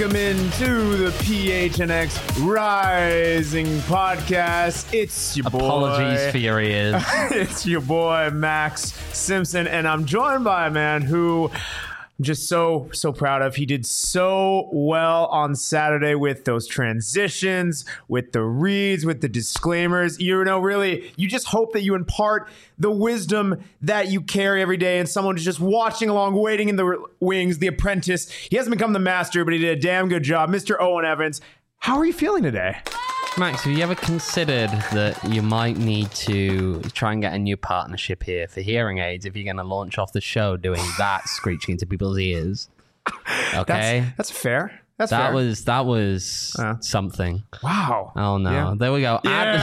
Welcome into the PHNX Rising podcast. It's your boy. Apologies for your ears. It's your boy, Max Simpson, and I'm joined by a man who I'm just so proud of. He did so well on Saturday with those transitions, with the reads, with the disclaimers. You know, really, you just hope that you impart the wisdom that you carry every day and someone who's just watching along, waiting in the wings, the apprentice. He hasn't become the master, but he did a damn good job. Mr. Owen Evans, how are you feeling today? Max, have you ever considered that you might need to try and get a new partnership here for hearing aids if you're going to launch off the show doing that screeching into people's ears? Okay. That's fair. That was something. Wow. Oh no. Yeah. There we go.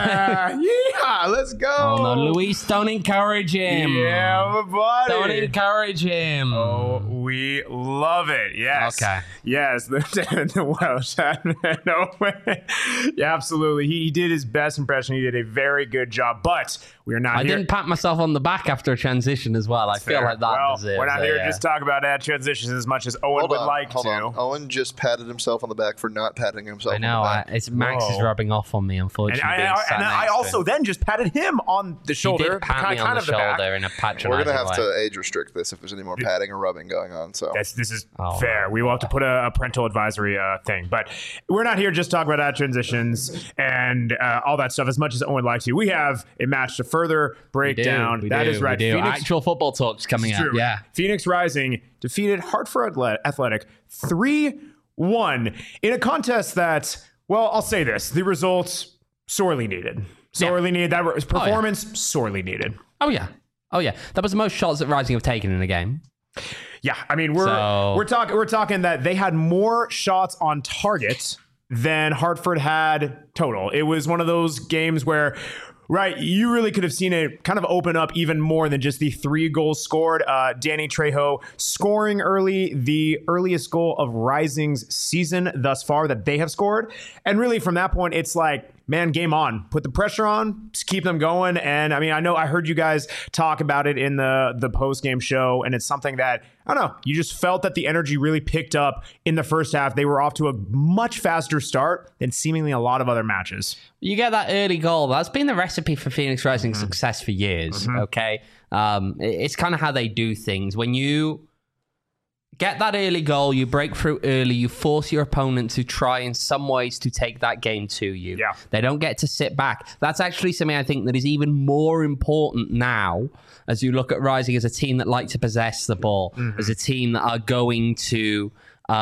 Yeah, let's go. Oh no, Luis, don't encourage him. Yeah, my buddy. Don't encourage him. Oh, we love it. Yes. Okay. Yes, the Welsh Admin. No way. Yeah, absolutely. He did his best impression. He did a very good job, but we are not I here. didn't pat myself on the back after a transition as well. I feel like that deserves we're not here to just talk about ad transitions as much as Owen would like to. Owen just patted himself on the back for not patting himself on the back. It's Max is rubbing off on me, unfortunately. And I also then just patted him on the shoulder. He did pat me on the shoulder in a patronizing way. We're going to have to age restrict this if there's any more patting or rubbing going on. So this is fair. We will have to put a parental advisory thing. But we're not here just to talk about ad transitions and all that stuff as much as Owen would like to. We have a match to further break down. That is right. Actual football talks coming up. Yeah. Phoenix Rising defeated Hartford Athletic 3-1 in a contest that, well, I'll say this. The results sorely needed. Sorely needed. That performance sorely needed. Oh, yeah. That was the most shots that Rising have taken in a game. Yeah, I mean, we're talking that they had more shots on target than Hartford had total. It was one of those games where, right, you really could have seen it kind of open up even more than just the 3 goals scored. Danny Trejo scoring early, the earliest goal of Rising's season thus far that they have scored. And really from that point, it's like, man, game on. Put the pressure on, just keep them going. And I mean, I heard you guys talk about it in the post-game show, and it's something that, I don't know, you just felt that the energy really picked up in the first half. They were off to a much faster start than seemingly a lot of other matches. You get that early goal. That's been the recipe for Phoenix Rising's success for years, okay? It's kind of how they do things. When you get that early goal, you break through early, you force your opponent to try in some ways to take that game to you. Yeah. They don't get to sit back. That's actually something I think that is even more important now as you look at Rising as a team that like to possess the ball, as a team that are going to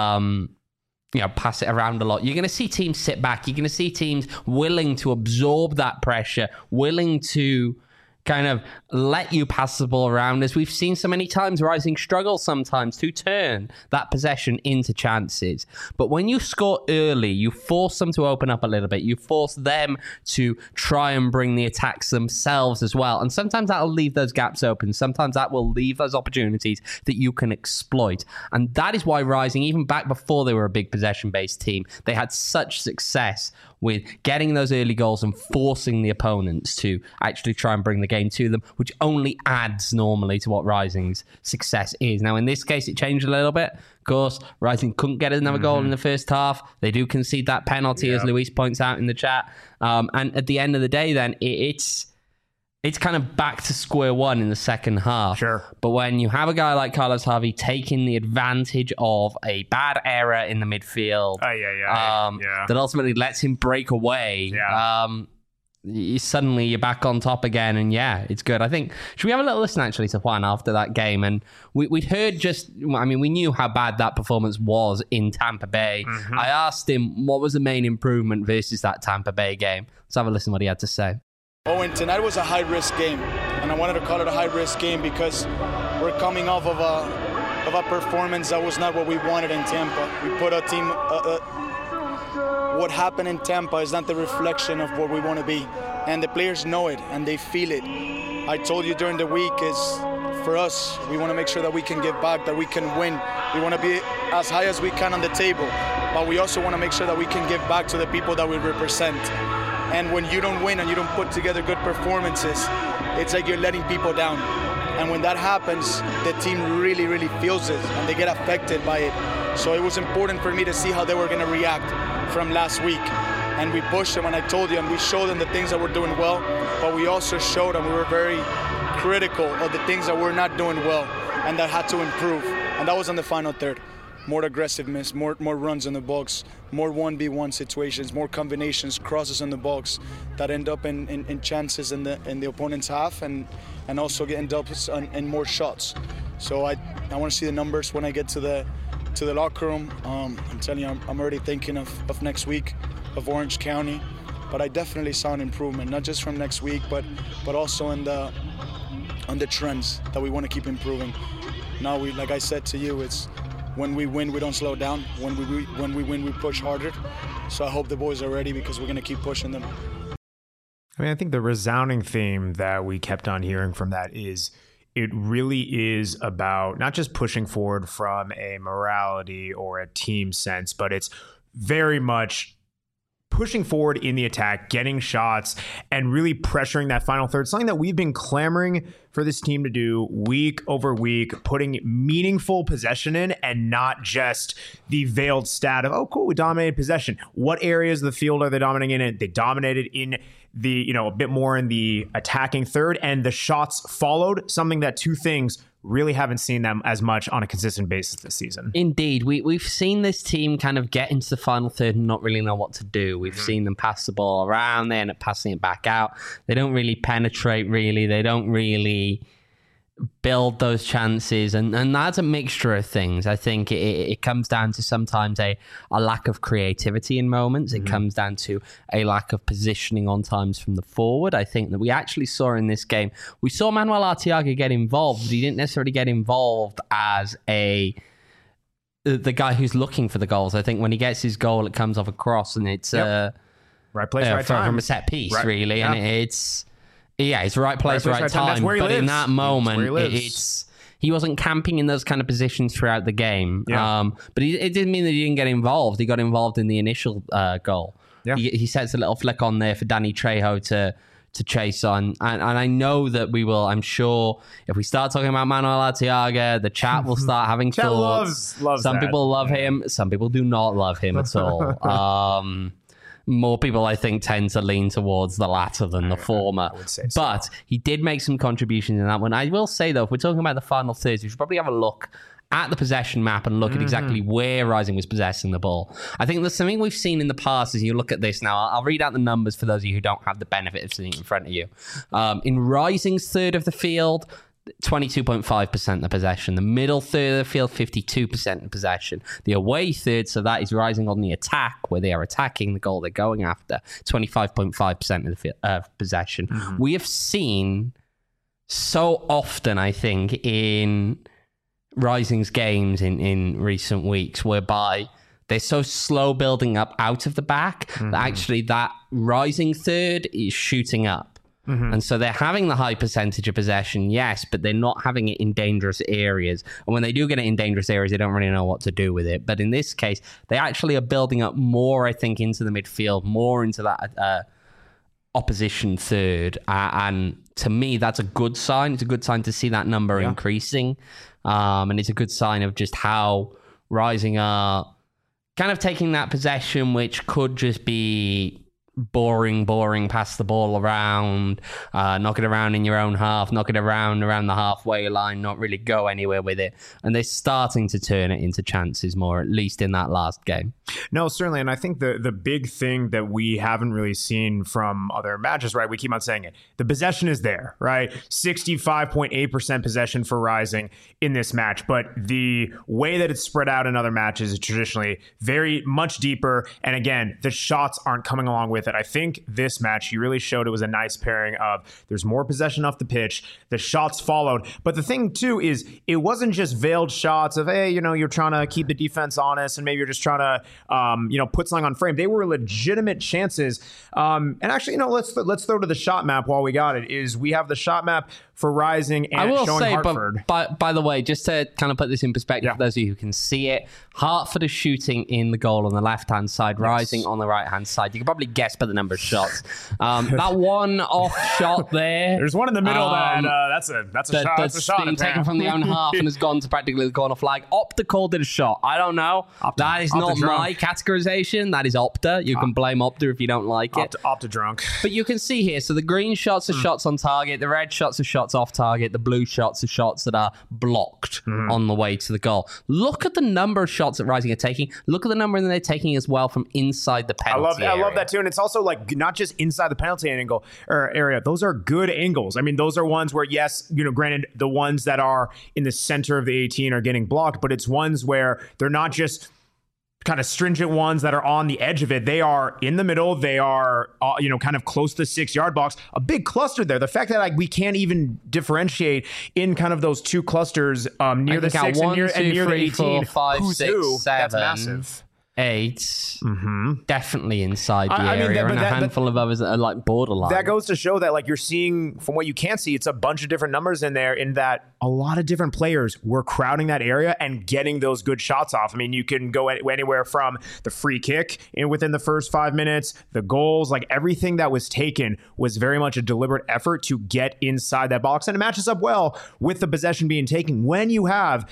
pass it around a lot. You're going to see teams sit back. You're going to see teams willing to absorb that pressure, willing to kind of let you pass the ball around, as we've seen so many times. Rising struggles sometimes to turn that possession into chances. But when you score early, you force them to open up a little bit. You force them to try and bring the attacks themselves as well. And sometimes that'll leave those gaps open. Sometimes that will leave those opportunities that you can exploit. And that is why Rising, even back before they were a big possession-based team, they had such success with getting those early goals and forcing the opponents to actually try and bring the game to them, which only adds normally to what Rising's success is. Now, in this case, it changed a little bit. Of course, Rising couldn't get another goal in the first half. They do concede that penalty, as Luis points out in the chat. And at the end of the day, then, it's kind of back to square one in the second half. Sure. But when you have a guy like Carlos Harvey taking the advantage of a bad error in the midfield, that ultimately lets him break away, you're back on top again, and it's good. I think, should we have a little listen actually to Juan after that game? And we'd heard we knew how bad that performance was in Tampa Bay. I asked him what was the main improvement versus that Tampa Bay game. Let's have a listen to what he had to say. Owen, tonight was a high-risk game, and I wanted to call it a high-risk game because we're coming off of a performance that was not what we wanted in Tampa. We put a team. What happened in Tampa is not the reflection of what we want to be, and the players know it and they feel it. I told you during the week is for us, we want to make sure that we can give back, that we can win. We want to be as high as we can on the table, but we also want to make sure that we can give back to the people that we represent. And when you don't win and you don't put together good performances, it's like you're letting people down. And when that happens, the team really, really feels it and they get affected by it. So it was important for me to see how they were going to react from last week. And we pushed them, and I told you, and we showed them the things that we're doing well, but we also showed them we were very critical of the things that we're not doing well and that had to improve. And that was on the final third. More aggressiveness, more runs in the box, more 1v1 situations, more combinations, crosses in the box that end up in chances in the opponent's half, and also end up in more shots. So I want to see the numbers when I get to the locker room. I'm telling you, I'm already thinking of next week, of Orange County, but I definitely saw an improvement, not just from next week, but also on the trends that we want to keep improving. Now, like I said to you, it's when we win, we don't slow down. When we win, we push harder. So I hope the boys are ready, because we're going to keep pushing them. I mean, I think the resounding theme that we kept on hearing from that is it really is about not just pushing forward from a morality or a team sense, but it's very much pushing forward in the attack, getting shots, and really pressuring that final third, something that we've been clamoring for this team to do week over week, putting meaningful possession in and not just the veiled stat of, oh, cool, we dominated possession. What areas of the field are they dominating in? They dominated in the, a bit more in the attacking third, and the shots followed, something that two things really haven't seen them as much on a consistent basis this season. Indeed. We've seen this team kind of get into the final third and not really know what to do. We've seen them pass the ball around, they end up passing it back out. They don't really penetrate, really. They don't really build those chances, and that's a mixture of things. I think it comes down to sometimes a lack of creativity in moments. It comes down to a lack of positioning on times from the forward. I think that we actually saw in this game, we saw Manuel Arteaga get involved, but he didn't necessarily get involved as the guy who's looking for the goals. I think when he gets his goal, it comes off a cross, and it's right place, right time from a set piece, right, really, yeah. And it's right place, right time. That's where he but lives. In that moment, it's he wasn't camping in those kind of positions throughout the game. Yeah. But it didn't mean that he didn't get involved. He got involved in the initial goal. Yeah. He sets a little flick on there for Danny Trejo to chase on. And I know that we will, I'm sure, if we start talking about Manuel Arteaga, the chat will start having thoughts. Loves some that. People love him. Some people do not love him at all. More people, I think, tend to lean towards the latter than the former. I would say so. But he did make some contributions in that one. I will say, though, if we're talking about the final thirds, we should probably have a look at the possession map and look at exactly where Rising was possessing the ball. I think there's something we've seen in the past as you look at this now. I'll read out the numbers for those of you who don't have the benefit of seeing it in front of you. In Rising's third of the field, 22.5% of possession. The middle third of the field, 52% of possession. The away third, so that is Rising on the attack, where they are attacking the goal they're going after, 25.5% of the possession. We have seen so often, I think, in Rising's games in recent weeks, whereby they're so slow building up out of the back that actually that Rising third is shooting up. And so they're having the high percentage of possession, yes, but they're not having it in dangerous areas. And when they do get it in dangerous areas, they don't really know what to do with it. But in this case, they actually are building up more, I think, into the midfield, more into that opposition third. And to me, that's a good sign. It's a good sign to see that number increasing. And it's a good sign of just how Rising are kind of taking that possession, which could just be boring, pass the ball around, knock it around in your own half, knock it around the halfway line, not really go anywhere with it. And they're starting to turn it into chances more, at least in that last game. No, certainly. And I think the big thing that we haven't really seen from other matches, right? We keep on saying it. The possession is there, right? 65.8% possession for Rising in this match. But the way that it's spread out in other matches is traditionally very much deeper. And again, the shots aren't coming along with it. I think this match, you really showed it was a nice pairing of there's more possession off the pitch, the shots followed. But the thing too is it wasn't just veiled shots of, hey, you're trying to keep the defense honest and maybe you're just trying to put something on frame. They were legitimate chances. And actually, let's throw to the shot map while we got it. Is we have the shot map for Rising and I will showing say, Hartford. But by the way, just to kind of put this in perspective for those of you who can see it, Hartford is shooting in the goal on the left-hand side, Rising on the right-hand side. You can probably guess impressed by the number of shots. That one off shot there. There's one in the middle that's a shot. That's a shot been taken from the own half and has gone to practically the corner flag. Opta called it a shot. I don't know. That is not my categorization. That is Opta. You can blame Opta if you don't like it. Opta drunk. But you can see here, so the green shots are shots on target, the red shots are shots off target, the blue shots are shots that are blocked on the way to the goal. Look at the number of shots that Rising are taking. Look at the number that they're taking as well from inside the penalty area. I love that too. And it's also like not just inside the penalty angle or area. Those are good angles. I mean, those are ones where, yes, granted, the ones that are in the center of the 18 are getting blocked, but it's ones where they're not just kind of stringent ones that are on the edge of it. They are in the middle. They are, kind of close to the 6-yard box. A big cluster there. The fact that we can't even differentiate in kind of those two clusters near the 6 and near the 18. 4, 5, 6, 7. That's massive. 8, definitely inside the area, and a handful of others that are like borderline. That goes to show that, like, you're seeing from what you can see, it's a bunch of different numbers in there, in that a lot of different players were crowding that area and getting those good shots off. I mean, you can go anywhere from the free kick within the first 5 minutes, the goals, like everything that was taken was very much a deliberate effort to get inside that box. And it matches up well with the possession being taken. When you have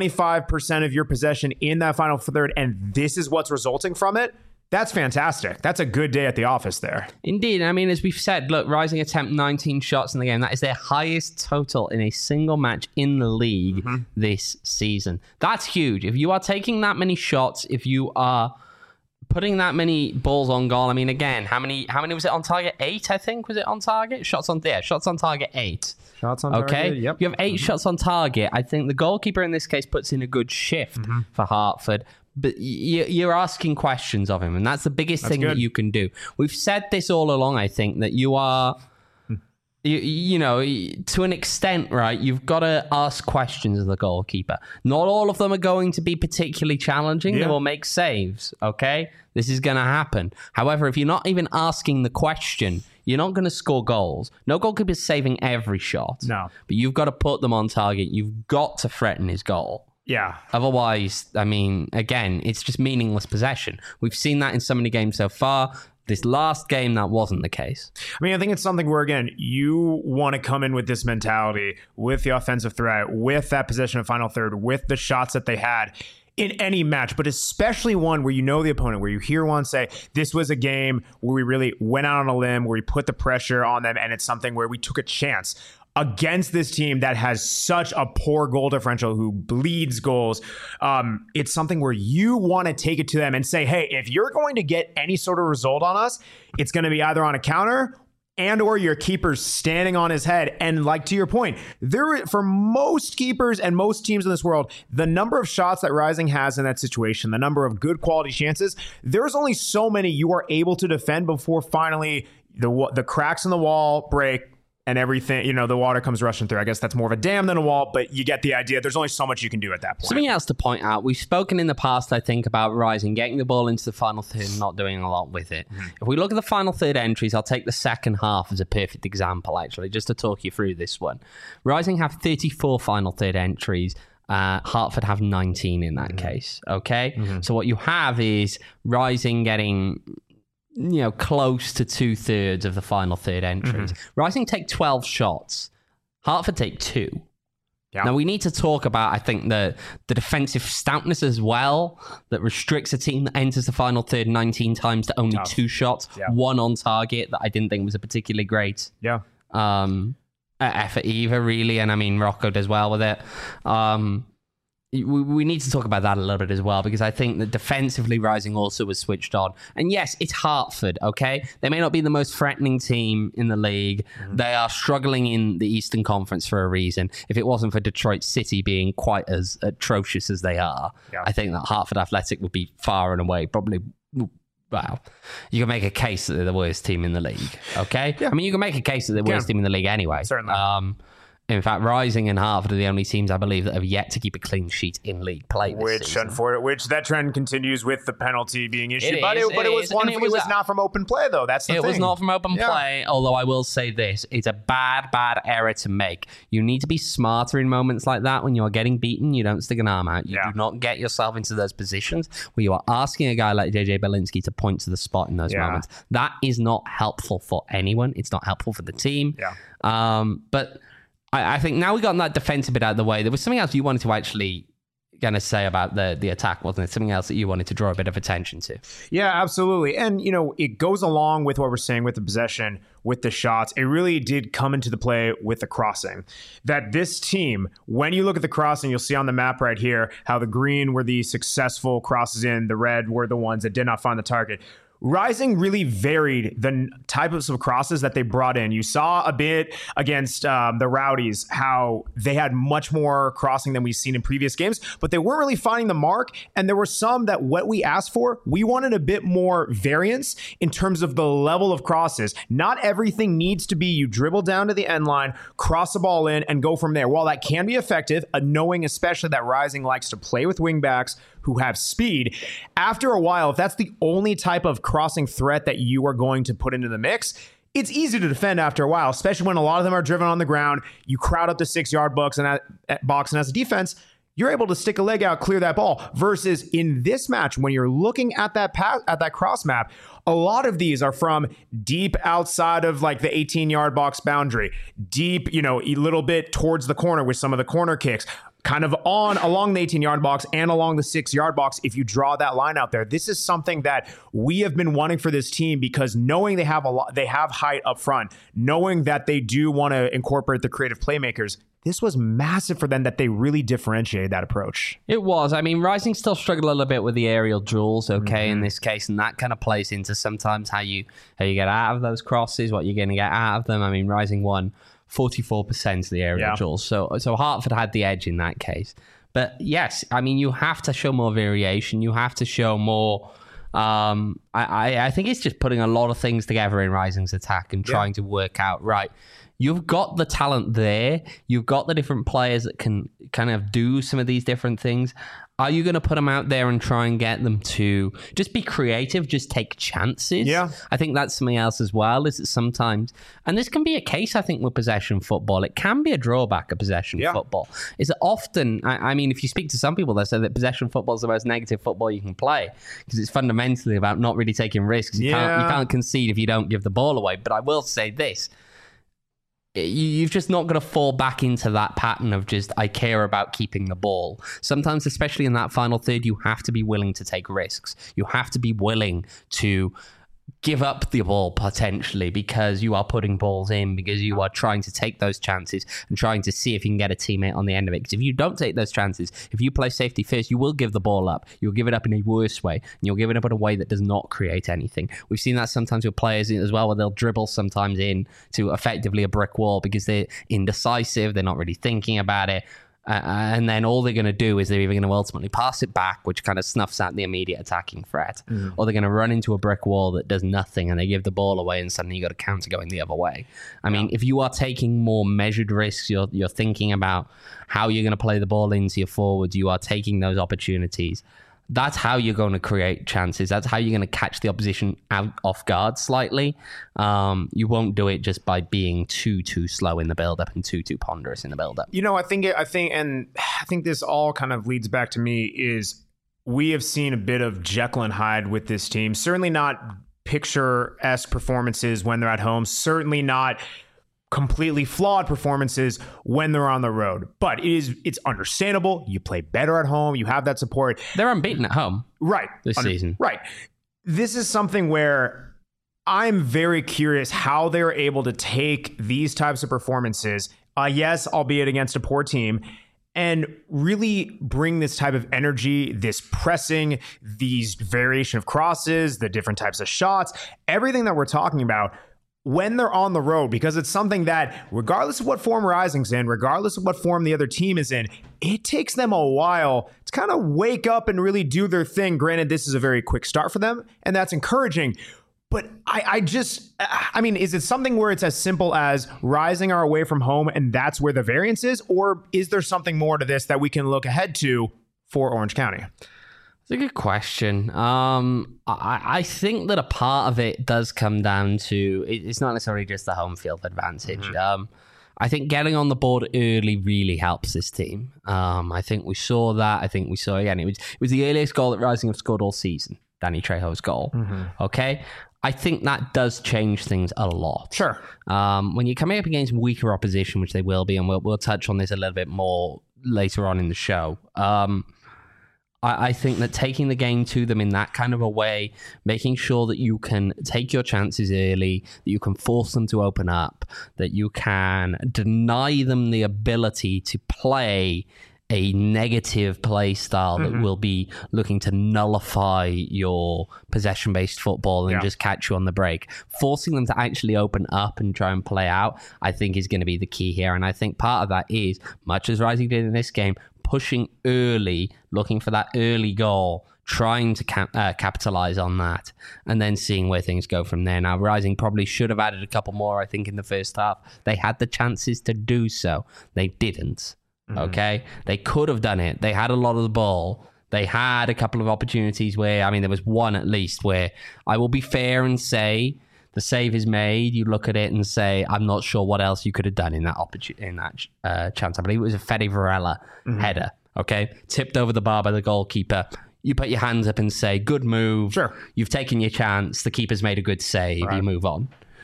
25% of your possession in that final third, and this is what's resulting from it, that's fantastic. That's a good day at the office there. Indeed. I mean, as we've said, look, Rising attempt 19 shots in the game. That is their highest total in a single match in the league this season. That's huge. If you are taking that many shots, if you are putting that many balls on goal, I mean, again, how many was it on target? 8, I think. Was it on target? Shots on target 8. Shots on target, yep. You have 8 shots on target. I think the goalkeeper in this case puts in a good shift for Hartford. But you're asking questions of him, and that's the biggest thing that you can do. We've said this all along, I think, that you are, to an extent, right, you've got to ask questions of the goalkeeper. Not all of them are going to be particularly challenging. They will make saves, okay? This is going to happen. However, if you're not even asking the question, you're not going to score goals. No goalkeeper is saving every shot. No. But you've got to put them on target. You've got to threaten his goal. Yeah. Otherwise, I mean, again, it's just meaningless possession. We've seen that in so many games so far. This last game, that wasn't the case. I mean, I think it's something where, again, you want to come in with this mentality, with the offensive threat, with that possession of final third, with the shots that they had in any match, but especially one where you know the opponent, where you hear one say, this was a game where we really went out on a limb, where we put the pressure on them, and it's something where we took a chance against this team that has such a poor goal differential, who bleeds goals. It's something where you want to take it to them and say, hey, if you're going to get any sort of result on us, it's going to be either on a counter and or your keeper's standing on his head. And like, to your point, for most keepers and most teams in this world, the number of shots that Rising has in that situation, the number of good quality chances, there's only so many you are able to defend before finally the cracks in the wall break, and everything, the water comes rushing through. I guess that's more of a dam than a wall, but you get the idea. There's only so much you can do at that point. Something else to point out, we've spoken in the past, I think, about Rising getting the ball into the final third and not doing a lot with it. If we look at the final third entries, I'll take the second half as a perfect example, actually, just to talk you through this one. Rising have 34 final third entries. Hartford have 19 in that case, okay? So what you have is Rising getting close to 2/3 of the final third entries. Rising take 12 shots. Hartford take 2. Yeah. Now, we need to talk about, I think, the defensive stoutness as well, that restricts a team that enters the final third 19 times to only 2 shots, 1 on target, that I didn't think was a particularly great effort either, really. And I mean, Rocco does well with it. We need to talk about that a little bit as well, because I think that defensively Rising also was switched on. And yes, it's Hartford, okay? They may not be the most threatening team in the league. They are struggling in the Eastern Conference for a reason. If it wasn't for Detroit City being quite as atrocious as they are, I think that Hartford Athletic would be far and away, probably... Well, you can make a case that they're the worst team in the league, okay? Yeah. I mean, you can make a case that they're the worst team in the league anyway. Certainly. In fact, Rising and Hartford are the only teams I believe that have yet to keep a clean sheet in league play this season. Which that trend continues with the penalty being issued. It was not from open play, though. That's the thing. It was not from open play, although I will say this. It's a bad error to make. You need to be smarter in moments like that. When you are getting beaten, you don't stick an arm out. You do not get yourself into those positions where you are asking a guy like JJ Belinsky to point to the spot in those moments. That is not helpful for anyone. It's not helpful for the team. But I think now we got that defensive bit out of the way. There was something else you wanted to actually going to say about the attack, wasn't it? Something else that you wanted to draw a bit of attention to. Yeah, absolutely. And, it goes along with what we're saying with the possession, with the shots. It really did come into the play with the crossing. That this team, when you look at the crossing, you'll see on the map right here how the green were the successful crosses in, the red were the ones that did not find the target. Rising really varied the types of crosses that they brought in. You saw a bit against the Rowdies, how they had much more crossing than we've seen in previous games, but they weren't really finding the mark. And there were some that what we asked for, we wanted a bit more variance in terms of the level of crosses. Not everything needs to be you dribble down to the end line, cross the ball in, and go from there. While that can be effective, knowing especially that Rising likes to play with wingbacks who have speed, after a while, if that's the only type of crossing threat that you are going to put into the mix, it's easy to defend after a while, especially when a lot of them are driven on the ground. You crowd up the 6-yard box, and as a defense, you're able to stick a leg out, clear that ball. Versus in this match, when you're looking at that cross map, a lot of these are from deep outside of like the 18-yard box boundary, deep, a little bit towards the corner with some of the corner kicks. Kind of along the 18-yard box and along the 6-yard box if you draw that line out there. This is something that we have been wanting for this team, because knowing they have height up front, knowing that they do want to incorporate the creative playmakers, this was massive for them that they really differentiated that approach. It was. I mean, Rising still struggled a little bit with the aerial duels, in this case, and that kind of plays into sometimes how you get out of those crosses, what you're going to get out of them. I mean, Rising won 44% of the aerial duels. So Hartford had the edge in that case. But yes, I mean, you have to show more variation. You have to show more. I think it's just putting a lot of things together in Rising's attack and trying to work out, right, you've got the talent there. You've got the different players that can kind of do some of these different things. Are you going to put them out there and try and get them to just be creative, just take chances? Yeah. I think that's something else as well, is that sometimes, and this can be a case, I think, with possession football. It can be a drawback of possession football. Is that often, I mean, if you speak to some people, they say that possession football is the most negative football you can play, because it's fundamentally about not really taking risks. You can't concede if you don't give the ball away. But I will say this. You've just not got to fall back into that pattern of just, I care about keeping the ball. Sometimes, especially in that final third, you have to be willing to take risks. You have to be willing to give up the ball potentially, because you are putting balls in, because you are trying to take those chances and trying to see if you can get a teammate on the end of it. Because if you don't take those chances, if you play safety first, you will give the ball up. You'll give it up in a worse way, and you'll give it up in a way that does not create anything. We've seen that sometimes with players as well, where they'll dribble sometimes in to effectively a brick wall because they're indecisive, they're not really thinking about it. And then all they're going to do is they're either going to ultimately pass it back, which kind of snuffs out the immediate attacking threat, or they're going to run into a brick wall that does nothing and they give the ball away, and suddenly you got a counter going the other way. I mean, if you are taking more measured risks, you're thinking about how you're going to play the ball into your forwards, you are taking those opportunities. That's how you're going to create chances. That's how you're going to catch the opposition out off guard slightly. You won't do it just by being too slow in the build-up and too ponderous in the build-up. I think this all kind of leads back to me is we have seen a bit of Jekyll and Hyde with this team. Certainly not picture-esque performances when they're at home. Certainly not completely flawed performances when they're on the road. But it's understandable. You play better at home. You have that support. They're unbeaten at home. Right. This season. Right. This is something where I'm very curious how they're able to take these types of performances, yes, albeit against a poor team, and really bring this type of energy, this pressing, these variation of crosses, the different types of shots, everything that we're talking about when they're on the road, because it's something that regardless of what form Rising's in, regardless of what form the other team is in, it takes them a while to kind of wake up and really do their thing. Granted, this is a very quick start for them, and that's encouraging. But I mean, is it something where it's as simple as Rising are away from home and that's where the variance is? Or is there something more to this that we can look ahead to for Orange County? It's a good question. I think that a part of it does come down to, it's not necessarily just the home field advantage. Mm-hmm. I think getting on the board early really helps this team. I think we saw that. I think we saw, again, it was the earliest goal that Rising have scored all season, Danny Trejo's goal. Mm-hmm. Okay? I think that does change things a lot. Sure. When you're coming up against weaker opposition, which they will be, and we'll touch on this a little bit more later on in the show, I think that taking the game to them in that kind of a way, making sure that you can take your chances early, that you can force them to open up, that you can deny them the ability to play a negative play style that will be looking to nullify your possession-based football and just catch you on the break. Forcing them to actually open up and try and play out, I think, is going to be the key here. And I think part of that is, much as Rising did in this game, pushing early, looking for that early goal, trying to capitalize on that, and then seeing where things go from there. Now, Rising probably should have added a couple more, I think, in the first half. They had the chances to do so. They didn't. Okay? They could have done it. They had a lot of the ball. They had a couple of opportunities where, I mean, there was one at least where I will be fair and say the save is made. You look at it and say, I'm not sure what else you could have done in that chance. I believe it was a Fede Varela header. Okay? Tipped over the bar by the goalkeeper. You put your hands up and say, good move. Sure. You've taken your chance. The keeper's made a good save. Right. You move on.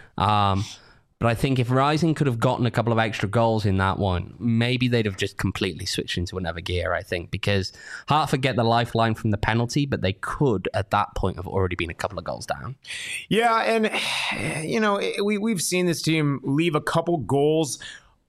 But I think if Rising could have gotten a couple of extra goals in that one, maybe they'd have just completely switched into another gear, I think, because Hartford get the lifeline from the penalty, but they could, at that point, have already been a couple of goals down. Yeah, and, you know, we've seen this team leave a couple goals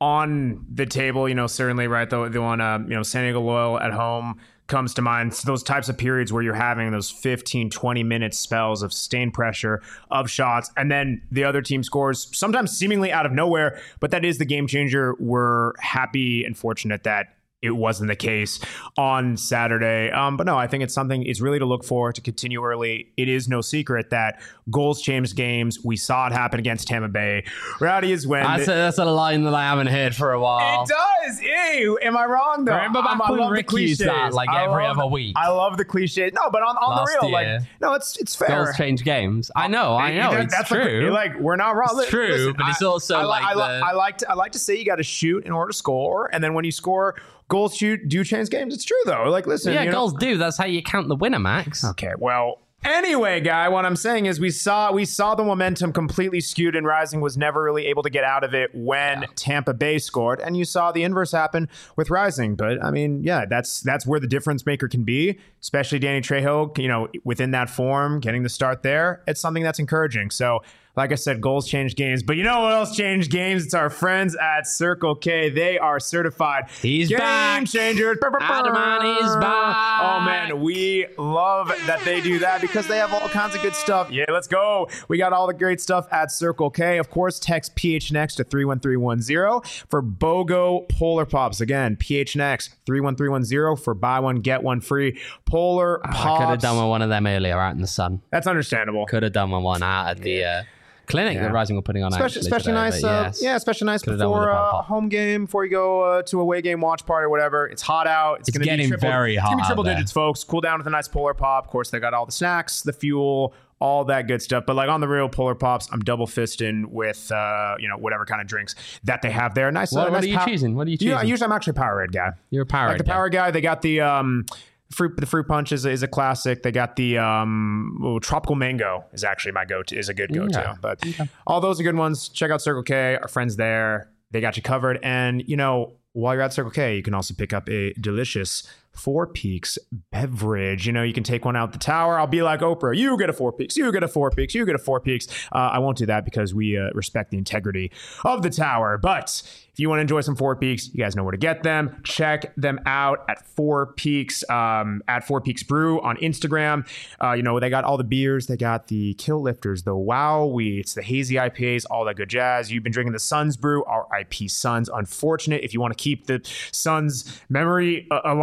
on the table, you know, certainly, right, the one, you know, San Diego Loyal at home comes to mind. So those types of periods where you're having those 15, 20-minute spells of sustained pressure, of shots, and then the other team scores, sometimes seemingly out of nowhere, but that is the game changer. We're happy and fortunate that it wasn't the case on Saturday. But no, I think it's something, it's really to look for, to continue early. It is no secret that goals change games. We saw it happen against Tampa Bay. Reality is when... That's a line that I haven't heard for a while. It does. Ew. Am I wrong, though? Remember back when Rick used that like every other week? I love the cliche. No, but on the real, like, no, it's fair. Goals change games. I know. That's true. Like, we're not wrong. It's true, listen, but it's also I like to say you got to shoot in order to score, and then when you score... Goals do change games. It's true, though. Like, listen. Yeah, goals do. That's how you count the winner, Max. Okay, well, anyway, guy, what I'm saying is we saw the momentum completely skewed, and Rising was never really able to get out of it when Tampa Bay scored, and you saw the inverse happen with Rising. But, I mean, yeah, that's where the difference maker can be, especially Danny Trejo, you know, within that form, getting the start there. It's something that's encouraging. So, like I said, goals change games. But you know what else changed games? It's our friends at Circle K. They are certified He's game back. changers. Adaman is back. Oh, man. We love that they do that because they have all kinds of good stuff. Yeah, let's go. We got all the great stuff at Circle K. Of course, text PHNX to 31310 for BOGO Polar Pops. Again, PHNX 31310 for buy one, get one free Polar Pops. I could have done with one of them earlier out in the sun. That's understandable. Could have done with one out at the... clinic that Rising were putting on, especially today, nice. Especially nice before a home game, before you go to away game watch party or whatever. It's hot out. It's going to be very hot. It's going to be triple digits, folks. Cool down with a nice Polar Pop. Of course, they got all the snacks, the fuel, all that good stuff. But like on the real Polar Pops, I'm double fisting with whatever kind of drinks that they have there. Nice. What are you choosing? What are you choosing? Yeah, usually I'm actually a Powerade guy. You're a Powerade. Like the Powerade guy. They got the fruit punch is a classic. They got the tropical mango is actually my go-to, is a good go-to. Yeah. But all those are good ones. Check out Circle K. Our friends there, they got you covered. And while you're at Circle K, you can also pick up a delicious Four Peaks beverage. You can take one out the tower. I'll be like Oprah. You get a Four Peaks. You get a Four Peaks. You get a Four Peaks. I won't do that because we respect the integrity of the tower. But if you want to enjoy some Four Peaks, you guys know where to get them. Check them out at Four Peaks, at Four Peaks Brew on Instagram. They got all the beers. They got the Kill Lifters, the Wow Wheats, the Hazy IPAs, all that good jazz. You've been drinking the Suns Brew, RIP Suns. Unfortunate. If you want to keep the Suns memory alive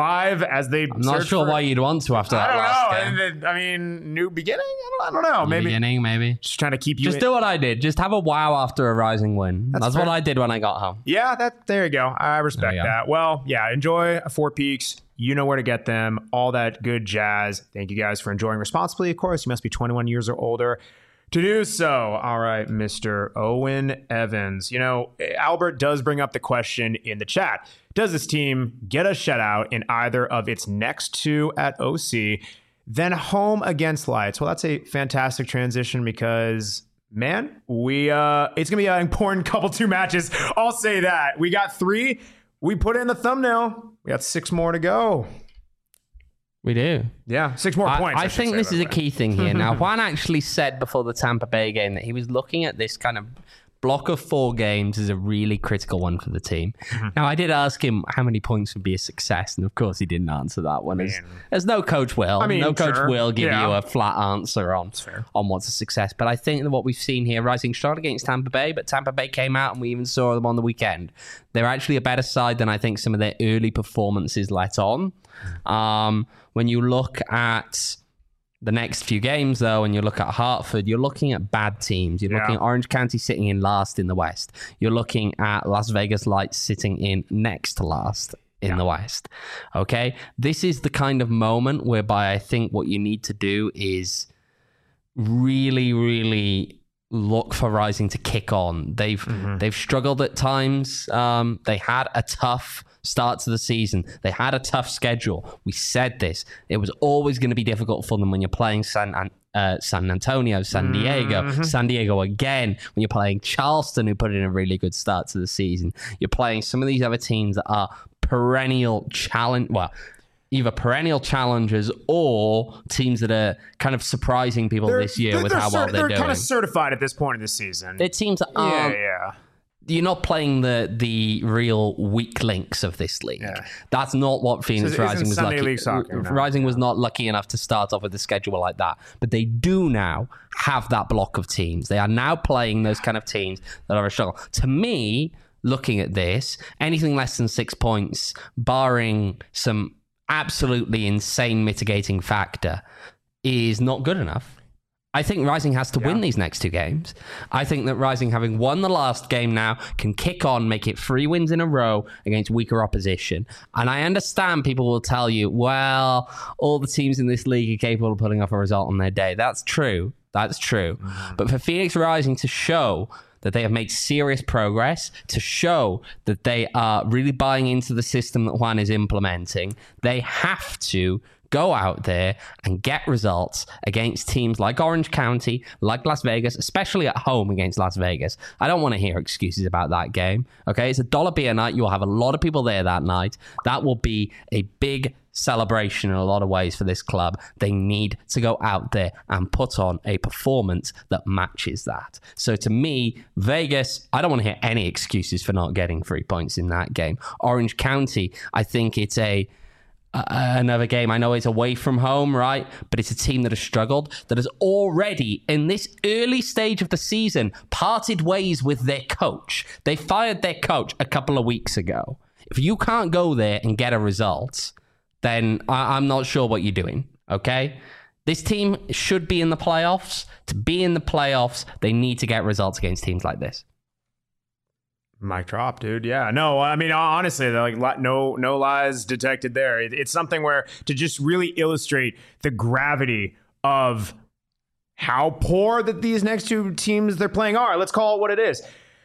as they. I'm not sure why you'd want to after that last game. I mean, new beginning. I don't know. Maybe just trying to keep you. Just do what I did. Just have a wow after a Rising win. That's what I did when I got home. Yeah, there you go. I respect that. Well, yeah, enjoy Four Peaks. You know where to get them. All that good jazz. Thank you guys for enjoying responsibly. Of course, you must be 21 years or older to do so. All right, Mr. Owen Evans. You know, Albert does bring up the question in the chat. Does this team get a shutout in either of its next two at OC, then home against Lights? Well, that's a fantastic transition because, man, it's going to be an important couple two matches. I'll say that. We got 3. We put in the thumbnail. We got 6 more to go. We do. Yeah, 6 more points. I think this is a key thing here. Now, Juan actually said before the Tampa Bay game that he was looking at this kind of block of 4 games as a really critical one for the team. Now, I did ask him how many points would be a success, and of course he didn't answer that one. As no coach will. Coach will give you a flat answer on what's a success. But I think that what we've seen here, Rising struggled against Tampa Bay, but Tampa Bay came out and we even saw them on the weekend. They're actually a better side than I think some of their early performances let on. When you look at the next few games, though, and you look at Hartford, you're looking at bad teams. You're looking at Orange County sitting in last in the West. You're looking at Las Vegas Lights sitting in next to last in the West. Okay? This is the kind of moment whereby I think what you need to do is really, really look for Rising to kick on. They've struggled at times. They had a tough start to the season. They had a tough schedule. We said this. It was always going to be difficult for them when you're playing San Antonio, San Diego again, when you're playing Charleston, who put in a really good start to the season. You're playing some of these other teams that are either perennial challengers or teams that are kind of surprising people this year with how well they're doing. They're kind of certified at this point in the season. They're teams that aren't... You're not playing the real weak links of this league. That's not what Phoenix Rising was lucky. Rising was not lucky enough to start off with a schedule like that. But they do now have that block of teams. They are now playing those kind of teams that are a struggle. To me, looking at this, anything less than 6 points, barring some absolutely insane mitigating factor, is not good enough. I think Rising has to win these next 2 games. I think that Rising, having won the last game now, can kick on, make it 3 wins in a row against weaker opposition. And I understand people will tell you, well, all the teams in this league are capable of putting off a result on their day. That's true. But for Phoenix Rising to show that they have made serious progress, to show that they are really buying into the system that Juan is implementing, they have to go out there and get results against teams like Orange County, like Las Vegas, especially at home against Las Vegas. I don't want to hear excuses about that game. Okay, it's $1 beer night. You'll have a lot of people there that night. That will be a big celebration in a lot of ways for this club. They need to go out there and put on a performance that matches that. So to me, Vegas, I don't want to hear any excuses for not getting 3 points in that game. Orange County, I think it's another game. I know it's away from home, right? But it's a team that has struggled, that has already, in this early stage of the season, parted ways with their coach. They fired their coach a couple of weeks ago. If you can't go there and get a result, then I'm not sure what you're doing, okay? This team should be in the playoffs. To be in the playoffs, they need to get results against teams like this. Mic drop, dude. Yeah, no, I mean, honestly, like no lies detected there. It's something where to just really illustrate the gravity of how poor that these next 2 teams they're playing are. Let's call it what it is.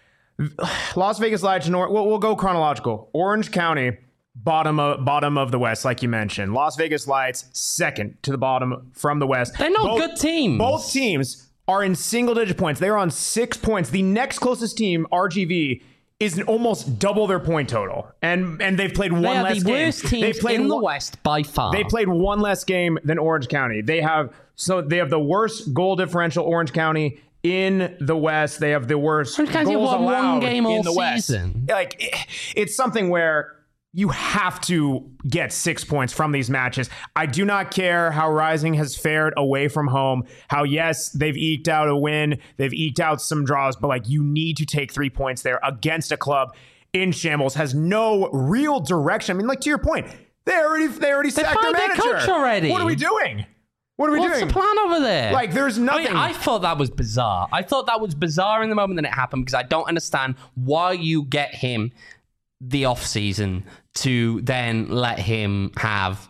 Las Vegas Lights, we'll go chronological. Orange County, bottom of the West, like you mentioned. Las Vegas Lights, second to the bottom from the West. They're not good teams. Both teams are in single-digit points. They're on 6 points. The next closest team, RGV, is almost double their point total. And they've played one less game. They are the worst teams in the West by far. They played one less game than Orange County. They have the worst goal differential, Orange County, in the West. They have the worst goals allowed one game in the season. West. Like, it's something where you have to get 6 points from these matches. I do not care how Rising has fared away from home, how, yes, they've eked out a win, they've eked out some draws, but like, you need to take 3 points there against a club in shambles, has no real direction. I mean, like, to your point, They already sacked their manager. Coach already. What are we doing? What are we doing? What's the plan over there? Like, there's nothing. I mean, I thought that was bizarre. I thought that was bizarre in the moment that it happened because I don't understand why you get him the off season to then let him have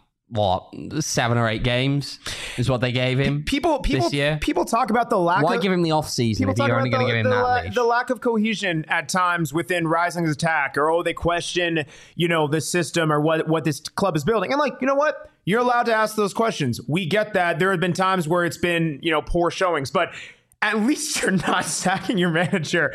7 or 8 games is what they gave him. This year. People talk about the lack. Why give him the off season if you're only going to give him that leash? The lack of cohesion at times within Rising's attack, or they question, the system or what this club is building. And you know what? You're allowed to ask those questions. We get that. There have been times where it's been poor showings, but at least you're not sacking your manager,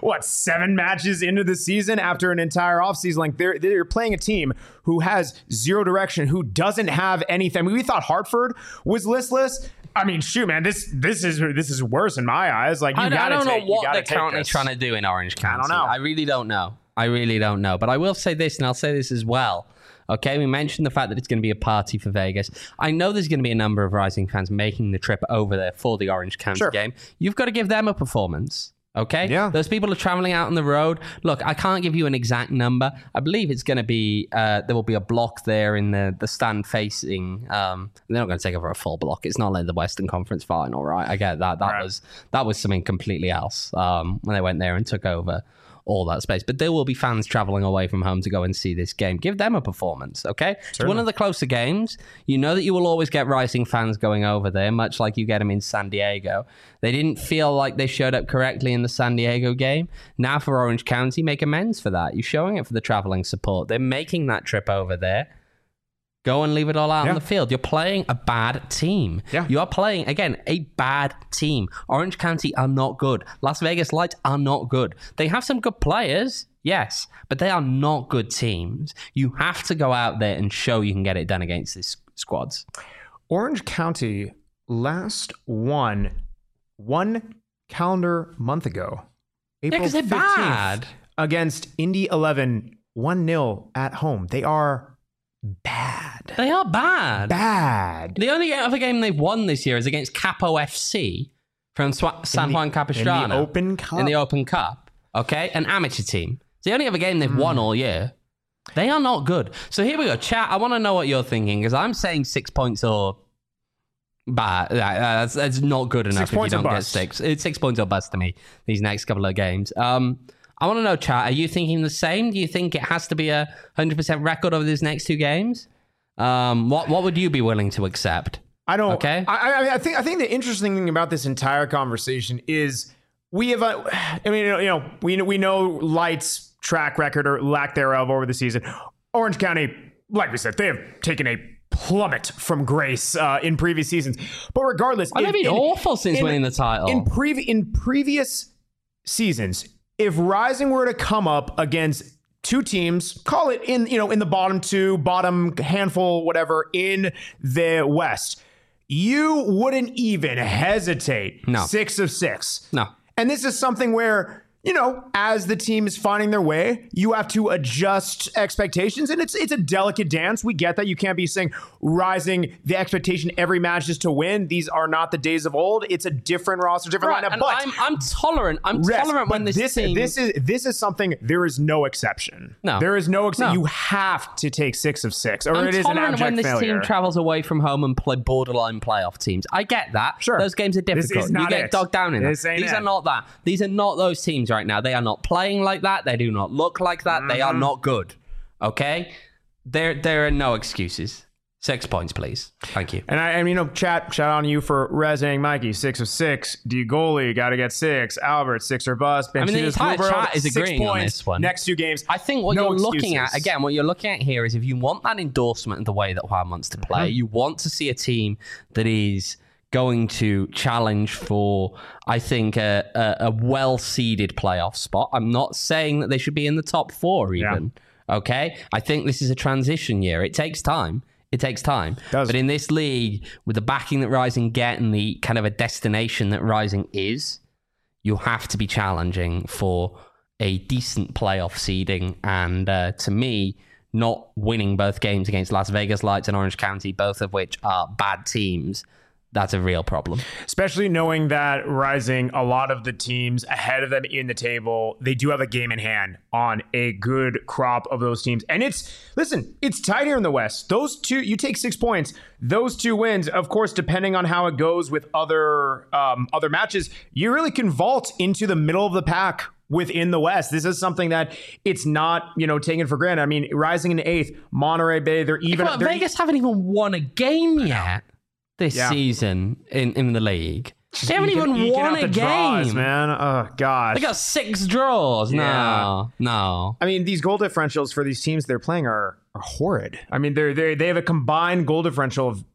7 matches into the season after an entire offseason? Like, they're playing a team who has zero direction, who doesn't have anything. I mean, we thought Hartford was listless. I mean, shoot, man, this is worse in my eyes. Like, I don't know what they're currently trying to do in Orange County. I don't know. I really don't know. But I will say this, and I'll say this as well. Okay, we mentioned the fact that it's going to be a party for Vegas. I know there's going to be a number of Rising fans making the trip over there for the Orange County game. You've got to give them a performance. Okay? Yeah. Those people are traveling out on the road. Look, I can't give you an exact number. I believe it's going to be, there will be a block there in the stand facing, they're not going to take over a full block. It's not like the Western Conference Final, right? I get that. That was something completely else when they went there and took over all that space. But there will be fans traveling away from home to go and see this game. Give them a performance, okay? It's one of the closer games. You know that you will always get Rising fans going over there, much like you get them in San Diego. They didn't feel like they showed up correctly in the San Diego game. Now for Orange County, make amends for that. You're showing it for the traveling support. They're making that trip over there. Go and leave it all out on the field. You're playing a bad team. Yeah. You are playing, again, a bad team. Orange County are not good. Las Vegas Lights are not good. They have some good players, yes, but they are not good teams. You have to go out there and show you can get it done against these squads. Orange County last won 1 calendar month ago. April 15th, they're bad. Against Indy 11, 1-0 at home. They are bad. They are bad. Bad. The only other game they've won this year is against Capo FC from San Juan Capistrano. In the Open Cup. In the Open Cup. Okay? An amateur team. It's the only other game they've won all year. They are not good. So here we go. Chat, I want to know what you're thinking, because I'm saying 6 points or bad. That's not good enough if you don't get 6. It's 6 points or bust to me, these next couple of games. I want to know, chat, are you thinking the same? Do you think it has to be a 100% record over these next 2 games? What would you be willing to accept? I don't. Okay. I think the interesting thing about this entire conversation is we have. We know Lights' track record or lack thereof over the season. Orange County, like we said, they have taken a plummet from grace in previous seasons. But regardless, they've been awful since winning the title. In previous seasons, if Rising were to come up against 2 teams, call it in the bottom 2, bottom handful, whatever, in the West, you wouldn't even hesitate. No. 6 of 6. No. And this is something where, as the team is finding their way, you have to adjust expectations. And it's a delicate dance. We get that. You can't be saying Rising, the expectation every match is to win. These are not the days of old. It's a different roster, different lineup. And but I'm tolerant. I'm tolerant when this team... This is something, there is no exception. No. There is no exception. No. You have to take 6 of 6, or it is an abject failure. I'm tolerant when this team travels away from home and play borderline playoff teams. I get that. Sure. Those games are difficult. You get dogged down in that. These are not that. These are not those teams right now. They are not playing like that. They do not look like that. They are not good. Okay? There are no excuses. 6 points, please. Thank you. And shout out on you for resonating Mikey. 6 of 6. Goalie, got to get 6. Albert, 6 or bust. The entire chat is agreeing on this one. Next 2 games. I think what you're looking at, again, what you're looking at here is if you want that endorsement of the way that Juan wants to play, you want to see a team that is going to challenge for, I think, a well-seeded playoff spot. I'm not saying that they should be in the top 4 even. Yeah. Okay? I think this is a transition year. It takes time. But in this league, with the backing that Rising get and the kind of a destination that Rising is, you have to be challenging for a decent playoff seeding. And to me, not winning both games against Las Vegas Lights and Orange County, both of which are bad teams, that's a real problem. Especially knowing that Rising, a lot of the teams ahead of them in the table, they do have a game in hand on a good crop of those teams. And it's tight here in the West. Those two, you take 6 points, those 2 wins, of course, depending on how it goes with other matches, you really can vault into the middle of the pack within the West. This is something that it's not, taken for granted. I mean, Rising in 8th, Monterey Bay, they're even. Vegas haven't even won a game yet this season in the league. They haven't even won a game, draws, man. Oh gosh, they got 6 draws. No. I mean, these goal differentials for these teams they're playing are horrid. I mean, they have a combined goal differential of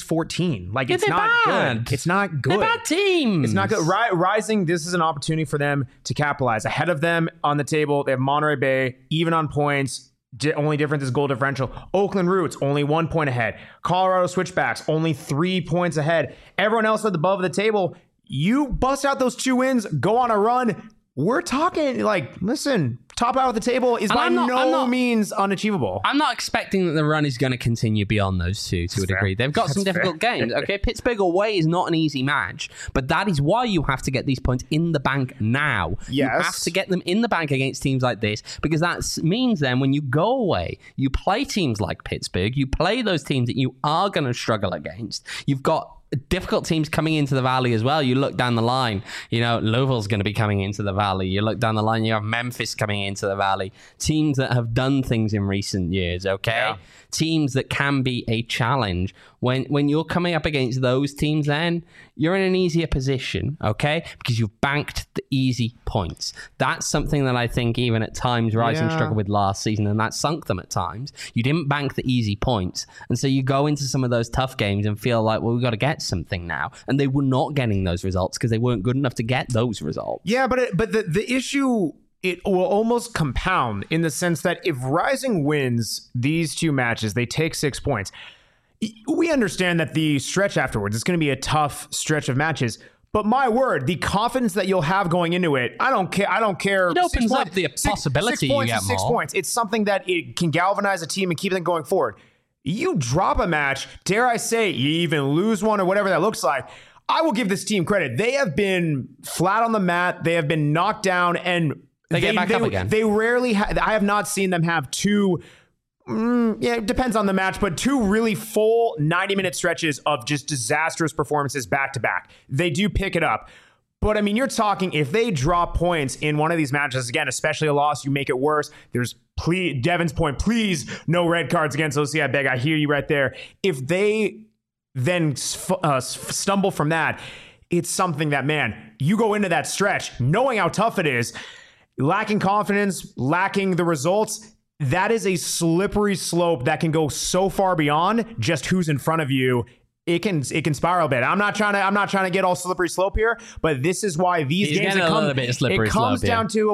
-14. Like, it's not good. It's not good. They're bad teams. It's not good. Rising, this is an opportunity for them to capitalize. Ahead of them on the table, they have Monterey Bay, even on points. Only difference is goal differential. Oakland Roots, only 1 point ahead. Colorado Switchbacks, only 3 points ahead. Everyone else at the above of the table, you bust out those 2 wins, go on a run. We're talking, listen, top out of the table is by no means unachievable. I'm not expecting that the run is going to continue beyond those 2 to a degree. They've got some difficult games. Okay, Pittsburgh away is not an easy match, but that is why you have to get these points in the bank now. Yes. You have to get them in the bank against teams like this, because that means then when you go away, you play teams like Pittsburgh, you play those teams that you are going to struggle against. You've got difficult teams coming into the Valley as well. You look down the line, Louisville's going to be coming into the Valley. You look down the line, you have Memphis coming into the Valley. Teams that have done things in recent years, okay? Yeah. Teams that can be a challenge. When you're coming up against those teams, then you're in an easier position, okay? Because you've banked the easy points. That's something that I think even at times Rising struggled with last season, and that sunk them at times. You didn't bank the easy points. And so you go into some of those tough games and feel like, well, we've got to get something now. And they were not getting those results because they weren't good enough to get those results. Yeah, but the issue, it will almost compound in the sense that if Rising wins these 2 matches, they take 6 points. We understand that the stretch afterwards is going to be a tough stretch of matches. But my word, the confidence that you'll have going into it, I don't care. It opens up the possibility you get more. 6 points. It's something that it can galvanize a team and keep them going forward. You drop a match, dare I say, you even lose one or whatever that looks like. I will give this team credit. They have been flat on the mat. They have been knocked down, and they get back up again. They rarely I have not seen them have 2, it depends on the match, but 2 really full 90-minute stretches of just disastrous performances back to back. They do pick it up. But I mean, you're talking, if they drop points in one of these matches, again, especially a loss, you make it worse. There's Devin's point, please, no red cards against OC. I beg, I hear you right there. If they then stumble from that, it's something that, man, you go into that stretch knowing how tough it is, lacking confidence, lacking the results. That is a slippery slope that can go so far beyond just who's in front of you. It can spiral a bit. I'm not trying to get all slippery slope here, but this is why these games comes down to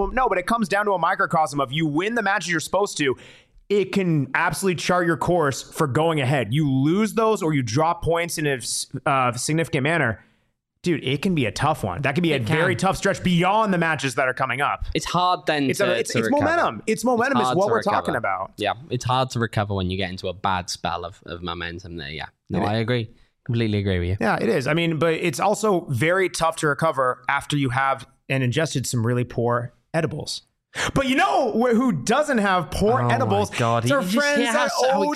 a microcosm of you win the matches you're supposed to. It can absolutely chart your course for going ahead. You lose those or you drop points in a significant manner. Dude, it can be a tough one. That could be a very tough stretch beyond the matches that are coming up. It's hard then it's momentum. It's momentum is what we're talking about. Yeah, it's hard to recover when you get into a bad spell of momentum there. Yeah, no, I agree. Completely agree with you. Yeah, it is. I mean, but it's also very tough to recover after you have ingested some really poor edibles. But you know who doesn't have poor edibles? My God. It's our friends at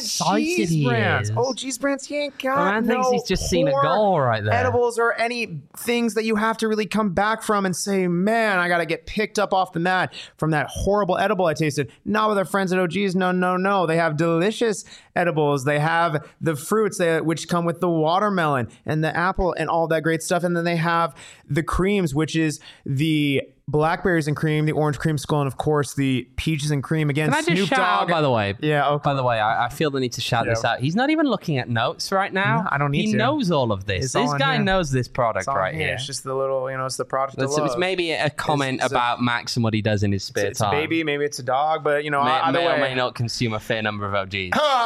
OG's Brands. OG's Brands, he ain't got man thinks he's just seen a goal right there. Edibles or any things that you have to really come back from and say, man, I got to get picked up off the mat from that horrible edible I tasted. Not with our friends at OG's. No. They have delicious edibles. They have the fruits which come with the watermelon and the apple and all that great stuff. And then they have the creams, which is the blackberries and cream, the orange creamsicle, and of course the peaches and cream. Again, can I just Snoop shout Dogg. Out, by the way? Yeah. Okay. By the way, I feel the need to shout this out. He's not even looking at notes right now. No, I don't need to. He knows all of this. This guy knows this product right here. It's just the little, it's the product. It's maybe a comment about Max and what he does in his spare time. It's a baby, maybe it's a dog, but either way, or may not consume a fair number of OGs.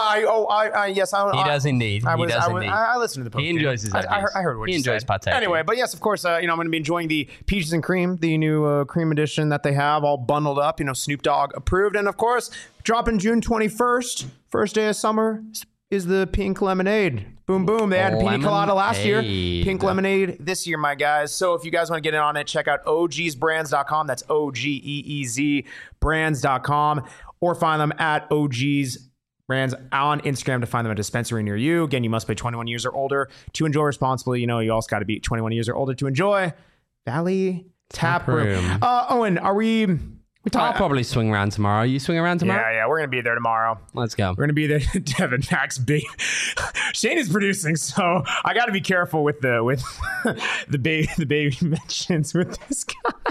Yes, he does indeed. I listen to the podcast. He enjoys his OGs. I heard what he enjoys partaking. Anyway, but yes, of course, I'm going to be enjoying the peaches and cream, the new cream edition that they have all bundled up, Snoop Dogg approved. And of course, dropping June 21st, first day of summer, is the pink lemonade. Boom, boom. They had pina colada last year. Pink lemonade this year, my guys. So if you guys want to get in on it, check out OGsBrands.com. That's OGEEZ brands.com. Or find them at OGs Brands on Instagram to find them at a dispensary near you. Again, you must be 21 years or older to enjoy responsibly. You also got to be 21 years or older to enjoy Valley Tap Room. Owen, are we... I'll probably swing around tomorrow. You swing around tomorrow? Yeah, we're going to be there tomorrow. Let's go. We're going to be there. Devin, Max, B. Shane is producing, so I got to be careful with the baby mentions with this guy.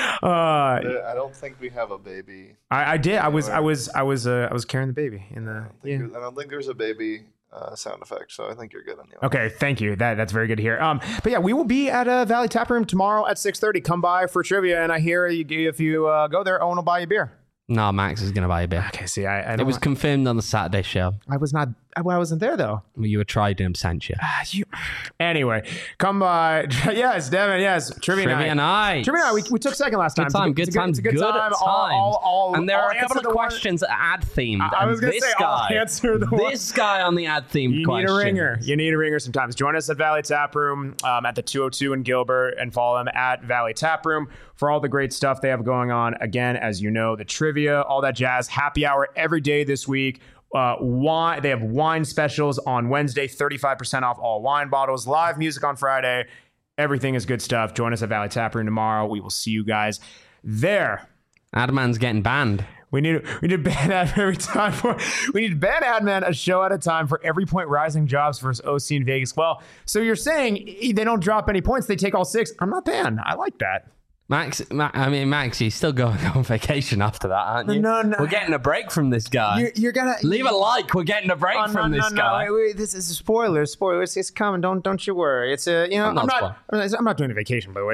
I don't think we have a baby. I did. I was carrying the baby in the. I don't think there's a baby sound effect, so I think you're good on the. Okay, thank you. That's very good to hear. But yeah, we will be at Valley Tap Room tomorrow at 6:30. Come by for trivia, and I hear if you go there, Owen will buy you a beer. No, Max is going to buy a beer. Okay, see, I don't it was confirmed on the Saturday show. I wasn't there though. Well, you were Trident sent you. Anyway, come by. Yes, Devin. Yes, trivia night. Trivia night. We took second last time. Good time. It's a good time. And there are a couple of questions ad themed. I was going to say, I'll answer the one. This guy on the ad themed question. You need a ringer sometimes. Join us at Valley Tap Room at the 202 in Gilbert, and follow them at Valley Tap Room for all the great stuff they have going on. Again, as you know, the trivia, all that jazz. Happy hour every day this week. Wine. They have wine specials on Wednesday, 35% off all wine bottles. Live music on Friday. Everything is good stuff. Join us at Valley Tap Room tomorrow. We will see you guys there. Adman's getting banned. We need to ban Adman we need to ban Adman a show at a time for every point Rising Jobs versus OC in Vegas. Well, so you're saying they don't drop any points, they take all 6. I'm not banned. I like that. Max, you're still going on vacation after that, aren't you? No. We're getting a break from this guy. You're gonna leave a like. We're getting a break from this guy. Wait, this is a spoiler. It's coming. Don't you worry. It's I'm not doing a vacation, by the way.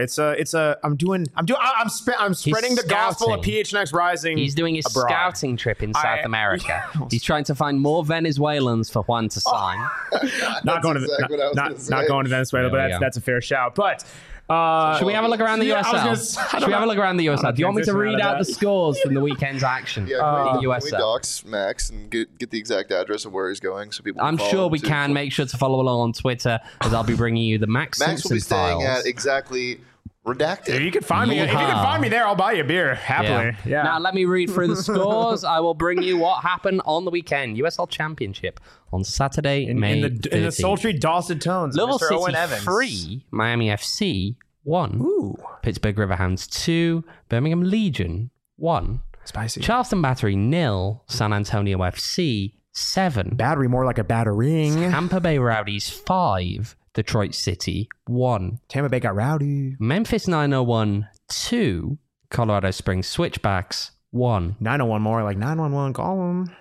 I'm spreading the gospel of PHNX Rising. He's doing his scouting trip in South America. He's trying to find more Venezuelans for Juan to sign. Not going to Venezuela, but that's a fair shout. But. Should we have a look around the USL? Should we have a look around the USL? Do you want me to read out the scores from the weekend's action in the USL? Can we dox Max and get the exact address of where he's going so people? I'm sure we can. Make sure to follow along on Twitter as I'll be bringing you the Max Simpson will be files. staying at exactly redacted. If you can find me, there, I'll buy you a beer happily. Yeah. Now let me read through the scores. I will bring you what happened on the weekend. USL Championship on Saturday, May 13th. In the sultry, dulcet tones. Liverpool Mr. City Owen Evans 3, Miami FC 1. Ooh. Pittsburgh Riverhounds 2, Birmingham Legion 1. Spicy. Charleston Battery 0, San Antonio FC 7. Battery more like a battering. Tampa Bay Rowdies 5, Detroit City 1. Tampa Bay got rowdy. Memphis 901 2, Colorado Springs Switchbacks 1. 901 more like 911. Call them.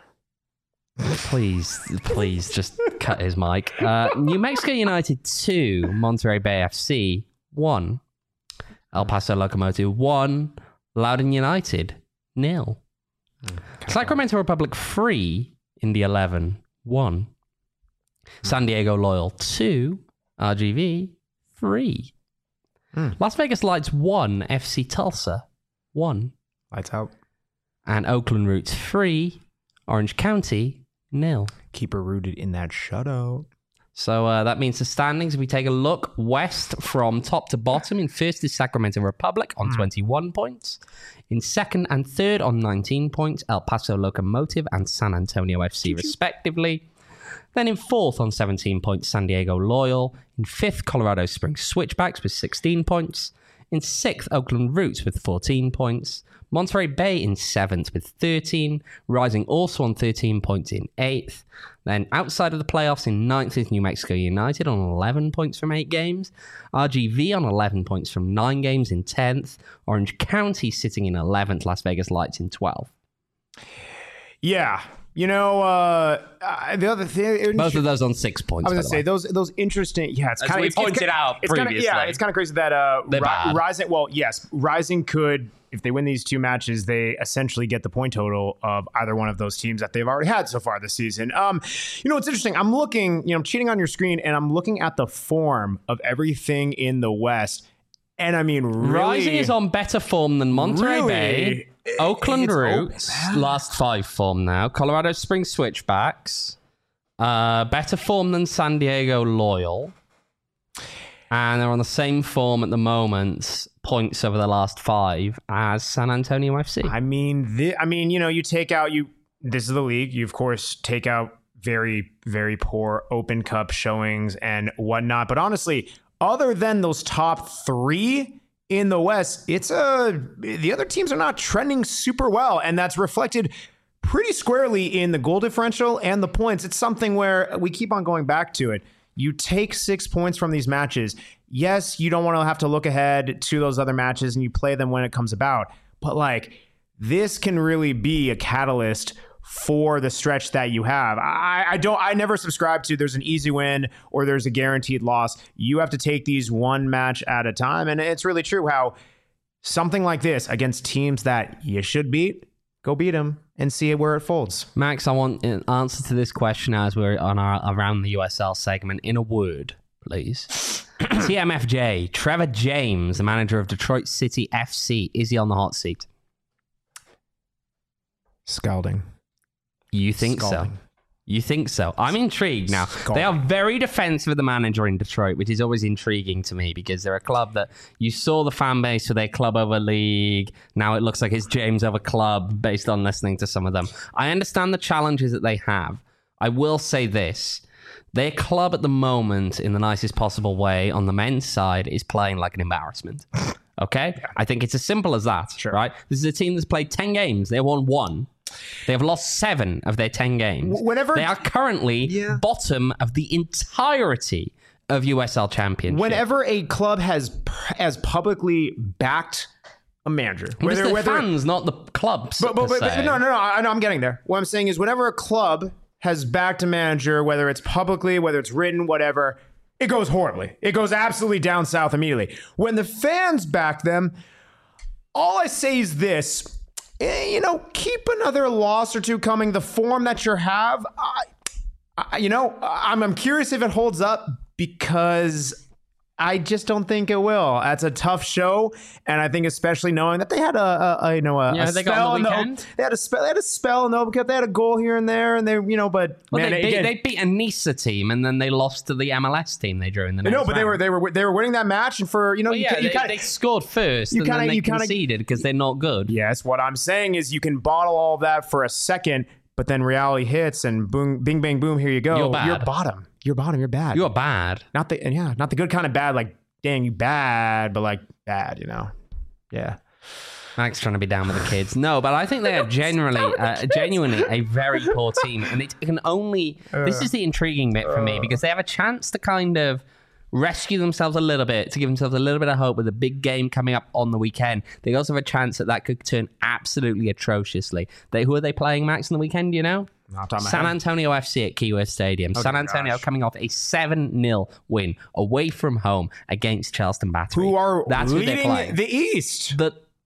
Please, just cut his mic. New Mexico United 2, Monterey Bay FC 1. El Paso Locomotive 1, Loudoun United 0. Sacramento Republic 3 in the 11 1. San Diego Loyal 2, RGV 3. Las Vegas Lights 1, FC Tulsa 1. Lights out. And Oakland Roots 3, Orange County 0. Keep her rooted in that shutout. So that means the standings, if we take a look west from top to bottom, in first is Sacramento Republic on 21 points. In second and third on 19 points, El Paso Locomotive and San Antonio FC respectively. Then in fourth on 17 points, San Diego Loyal. In fifth, Colorado Springs Switchbacks with 16 points. In sixth, Oakland Roots with 14 points. Monterey Bay in seventh with 13. Rising also on 13 points in eighth. Then outside of the playoffs in ninth is New Mexico United on 11 points from 8 games. RGV on 11 points from 9 games in 10th. Orange County sitting in 11th. Las Vegas Lights in 12th. Yeah. You know, the other thing... Both of those on 6 points. I was going to say, those interesting... Yeah, it's kind of... we pointed out previously. It's kind of crazy that Rising... Well, yes, Rising could... If they win these 2 matches, they essentially get the point total of either one of those teams that they've already had so far this season. You know, it's interesting. I'm looking... I'm cheating on your screen, and I'm looking at the form of everything in the West. And I mean, really... Rising is on better form than Monterey Bay. Oakland Roots, last 5 form now. Colorado Springs Switchbacks, Better form than San Diego Loyal. And they're on the same form at the moment, points over the last 5, as San Antonio FC. I mean, you take out this is the league. You of course take out very, very poor Open Cup showings and whatnot. But honestly, other than those top 3 in the West, the other teams are not trending super well, and that's reflected pretty squarely in the goal differential and the points. It's something where we keep on going back to it. You take 6 points from these matches. Yes, you don't want to have to look ahead to those other matches and you play them when it comes about. But this can really be a catalyst for the stretch that you have. I never subscribe to there's an easy win or there's a guaranteed loss. You have to take these one match at a time. And it's really true how something like this against teams that you should beat, go beat them and see where it folds. Max, I want an answer to this question as we're on our Around the USL segment in a word, please. TMFJ, Trevor James, the manager of Detroit City FC, is he on the hot seat? Scalding. You think so? You think so? I'm intrigued now. They are very defensive of the manager in Detroit, which is always intriguing to me because they're a club that you saw the fan base for their club over league. Now it looks like it's James over club based on listening to some of them. I understand the challenges that they have. I will say this. Their club at the moment, in the nicest possible way, on the men's side, is playing like an embarrassment. Okay? Yeah. I think it's as simple as that, right? This is a team that's played 10 games. They won 1. They have lost 7 of their 10 games. They are currently bottom of the entirety of USL Championship. Whenever a club has publicly backed a manager, whether fans, not the clubs. No, I'm getting there. What I'm saying is, whenever a club has backed a manager, whether it's publicly, whether it's written, whatever, it goes horribly. It goes absolutely down south immediately. When the fans back them, all I say is this. Keep another loss or 2 coming. The form that you have, I'm curious if it holds up because I just don't think it will. That's a tough show, and I think especially knowing that they had a spell in the they had a spell in the Open Cup. They had a goal here and there, and they they beat a Nisa team, and then they lost to the MLS team they drew in the next round. But they were winning that match, and they scored first, and then they conceded because they're not good. Yes, what I'm saying is you can bottle all of that for a second, but then reality hits, and boom, bing, bang, boom, here you go. You're bottom. You're bottom. You're bad. You're bad. Not the good kind of bad. Like, dang, you bad, but bad. Yeah. Max trying to be down with the kids. No, but I think they are genuinely a very poor team, and it can only. This is the intriguing bit for me because they have a chance to kind of rescue themselves a little bit, to give themselves a little bit of hope with a big game coming up on the weekend. They also have a chance that could turn absolutely atrociously. Who are they playing, Max, on the weekend? Do you know? San Antonio FC at Keyworth Stadium. San Antonio coming off a 7-0 win away from home against Charleston Battery. That's leading the East.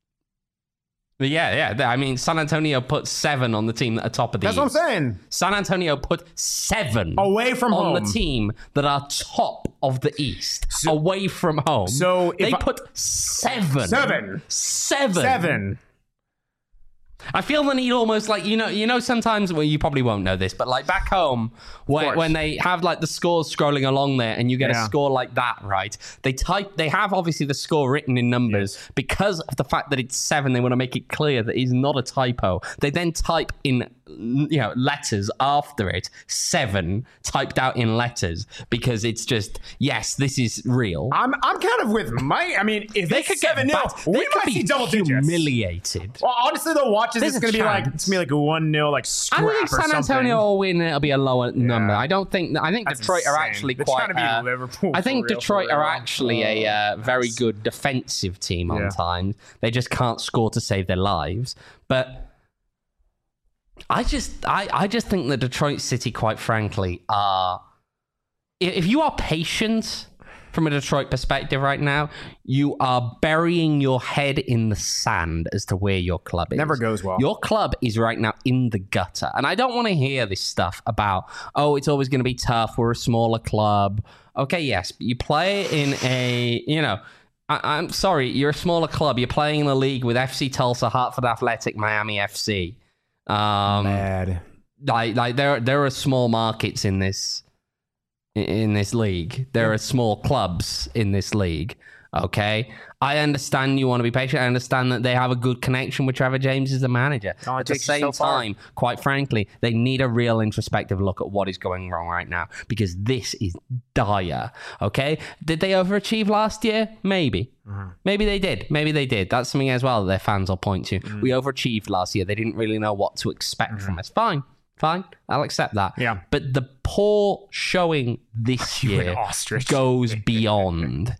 I mean, San Antonio put 7 on the team that are top of the East. That's what I'm saying. San Antonio put 7 away from home on the team that are top of the East, away from home. So they put 7. 7. I feel the need almost sometimes, well, you probably won't know this, but back home when they have the scores scrolling along there and you get a score like that, right? They have obviously the score written in numbers because of the fact that it's 7. They want to make it clear that it's not a typo. They then type in letters after it, 7 typed out in letters because it's just, yes, this is real. I'm kind of with Mike. I mean, if they could 7-0, we might see double digits. Humiliated. Well, honestly, they'll watch this. It's going to be like a 1-0 scrap. I don't think San Antonio will win. It'll be a lower number. I think that's Detroit insane. are actually They're quite. Trying to be Liverpool I think Detroit are actually a very good defensive team on times. They just can't score to save their lives. But I just think that Detroit City, quite frankly, are. If you are patient from a Detroit perspective right now, you are burying your head in the sand as to where your club is. Never goes well. Your club is right now in the gutter. And I don't want to hear this stuff about, it's always going to be tough. We're a smaller club. Okay, yes, but you play in a, I'm sorry, you're a smaller club. You're playing in the league with FC Tulsa, Hartford Athletic, Miami FC. Mad. like there are small markets in this league. There are small clubs in this league. Okay, I understand you want to be patient. I understand that they have a good connection with Trevor James as the manager. At the same time, quite frankly, they need a real introspective look at what is going wrong right now, because this is dire. Okay, did they overachieve last year? Maybe. Maybe they did. That's something as well that their fans will point to. We overachieved last year. They didn't really know what to expect from us. Fine. I'll accept that. Yeah. But the poor showing this year goes beyond.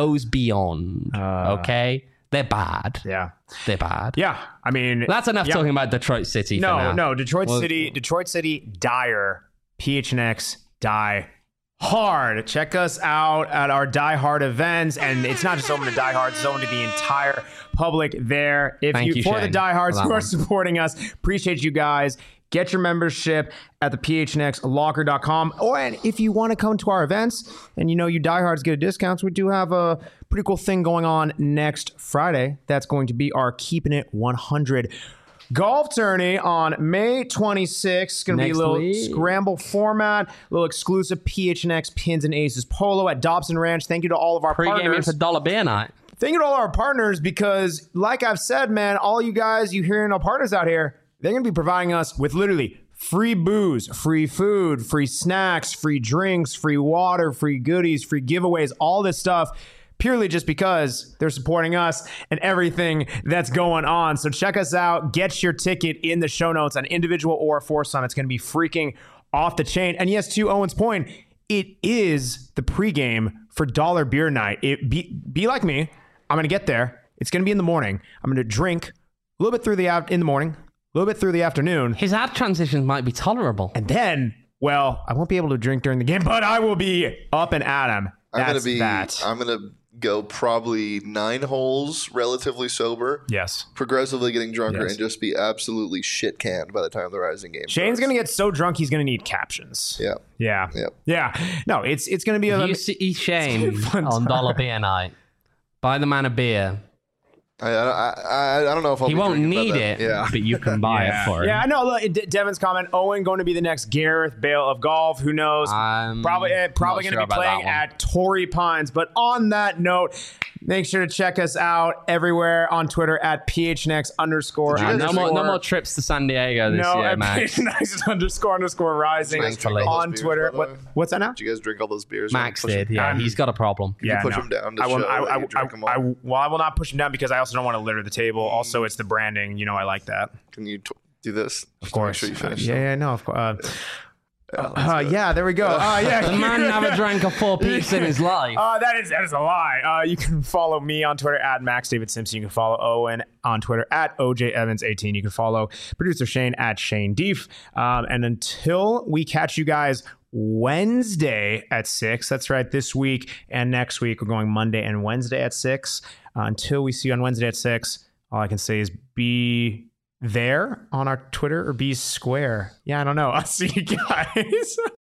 Okay? They're bad. Yeah. They're bad. Yeah. I mean, that's enough talking about Detroit City. No. Detroit City, dire. PHNX, die hard. Check us out at our Die Hard events. And it's not just open to Die Hard, it's open to the entire public there. Thank you, for Shane, the Die Hards who are supporting us, appreciate you guys. Get your membership at the phnxlocker.com. Or if you want to come to our events and you diehards get a discount, we do have a pretty cool thing going on next Friday. That's going to be our Keeping It 100 golf tourney on May 26th. It's going to be a little scramble format, a little exclusive PHNX Pins and Aces polo at Dobson Ranch. Thank you to all of our partners. Pre-game $1 beer night. Thank you to all our partners, because like I've said, man, all you guys, you hearing our partners out here, they're going to be providing us with literally free booze, free food, free snacks, free drinks, free water, free goodies, free giveaways, all this stuff, purely just because they're supporting us and everything that's going on. So check us out. Get your ticket in the show notes, an individual or a foursome. It's going to be freaking off the chain. And yes, to Owen's point, it is the pregame for Dollar Beer Night. Be like me. I'm going to get there. It's going to be in the morning. I'm going to drink a little bit in the morning, a little bit through the afternoon. His ad transitions might be tolerable. And then, well, I won't be able to drink during the game, but I will be up and at him. I'm going to go probably 9 holes relatively sober. Yes. Progressively getting drunker and just be absolutely shit canned by the time the Rising game Shane's going to get so drunk he's going to need captions. Yeah. No, it's going to be you see Shane on Dollar Beer Night. Buy the man a beer. I don't know if he won't need it, but you can buy it for him. Yeah, I know. Look, Devin's comment: Owen going to be the next Gareth Bale of golf. Who knows? Probably going to be playing at Torrey Pines. But on that note, make sure to check us out everywhere on Twitter at PHNX_. No more trips to San Diego this year, Max. PHNX__ rising on Twitter. What's that now? Did you guys drink all those beers? Max did. Yeah, he's got a problem. Can you push him down to show that you drank them all? Well, I will not push him down because I also don't want to litter the table. Also, it's the branding. I like that. Can you do this? Of course. Make sure you finish. No, of course. There we go. The man never drank a 4 Peaks in his life. That is a lie. You can follow me on Twitter at Max David Simpson. You can follow Owen on Twitter at OJ Evans 18. You can follow producer Shane at Shane Deef. And until we catch you guys Wednesday at 6, that's right, this week and next week, we're going Monday and Wednesday at 6. Until we see you on Wednesday at 6, all I can say is be there on our Twitter or be square. Yeah, I don't know. I'll see you guys.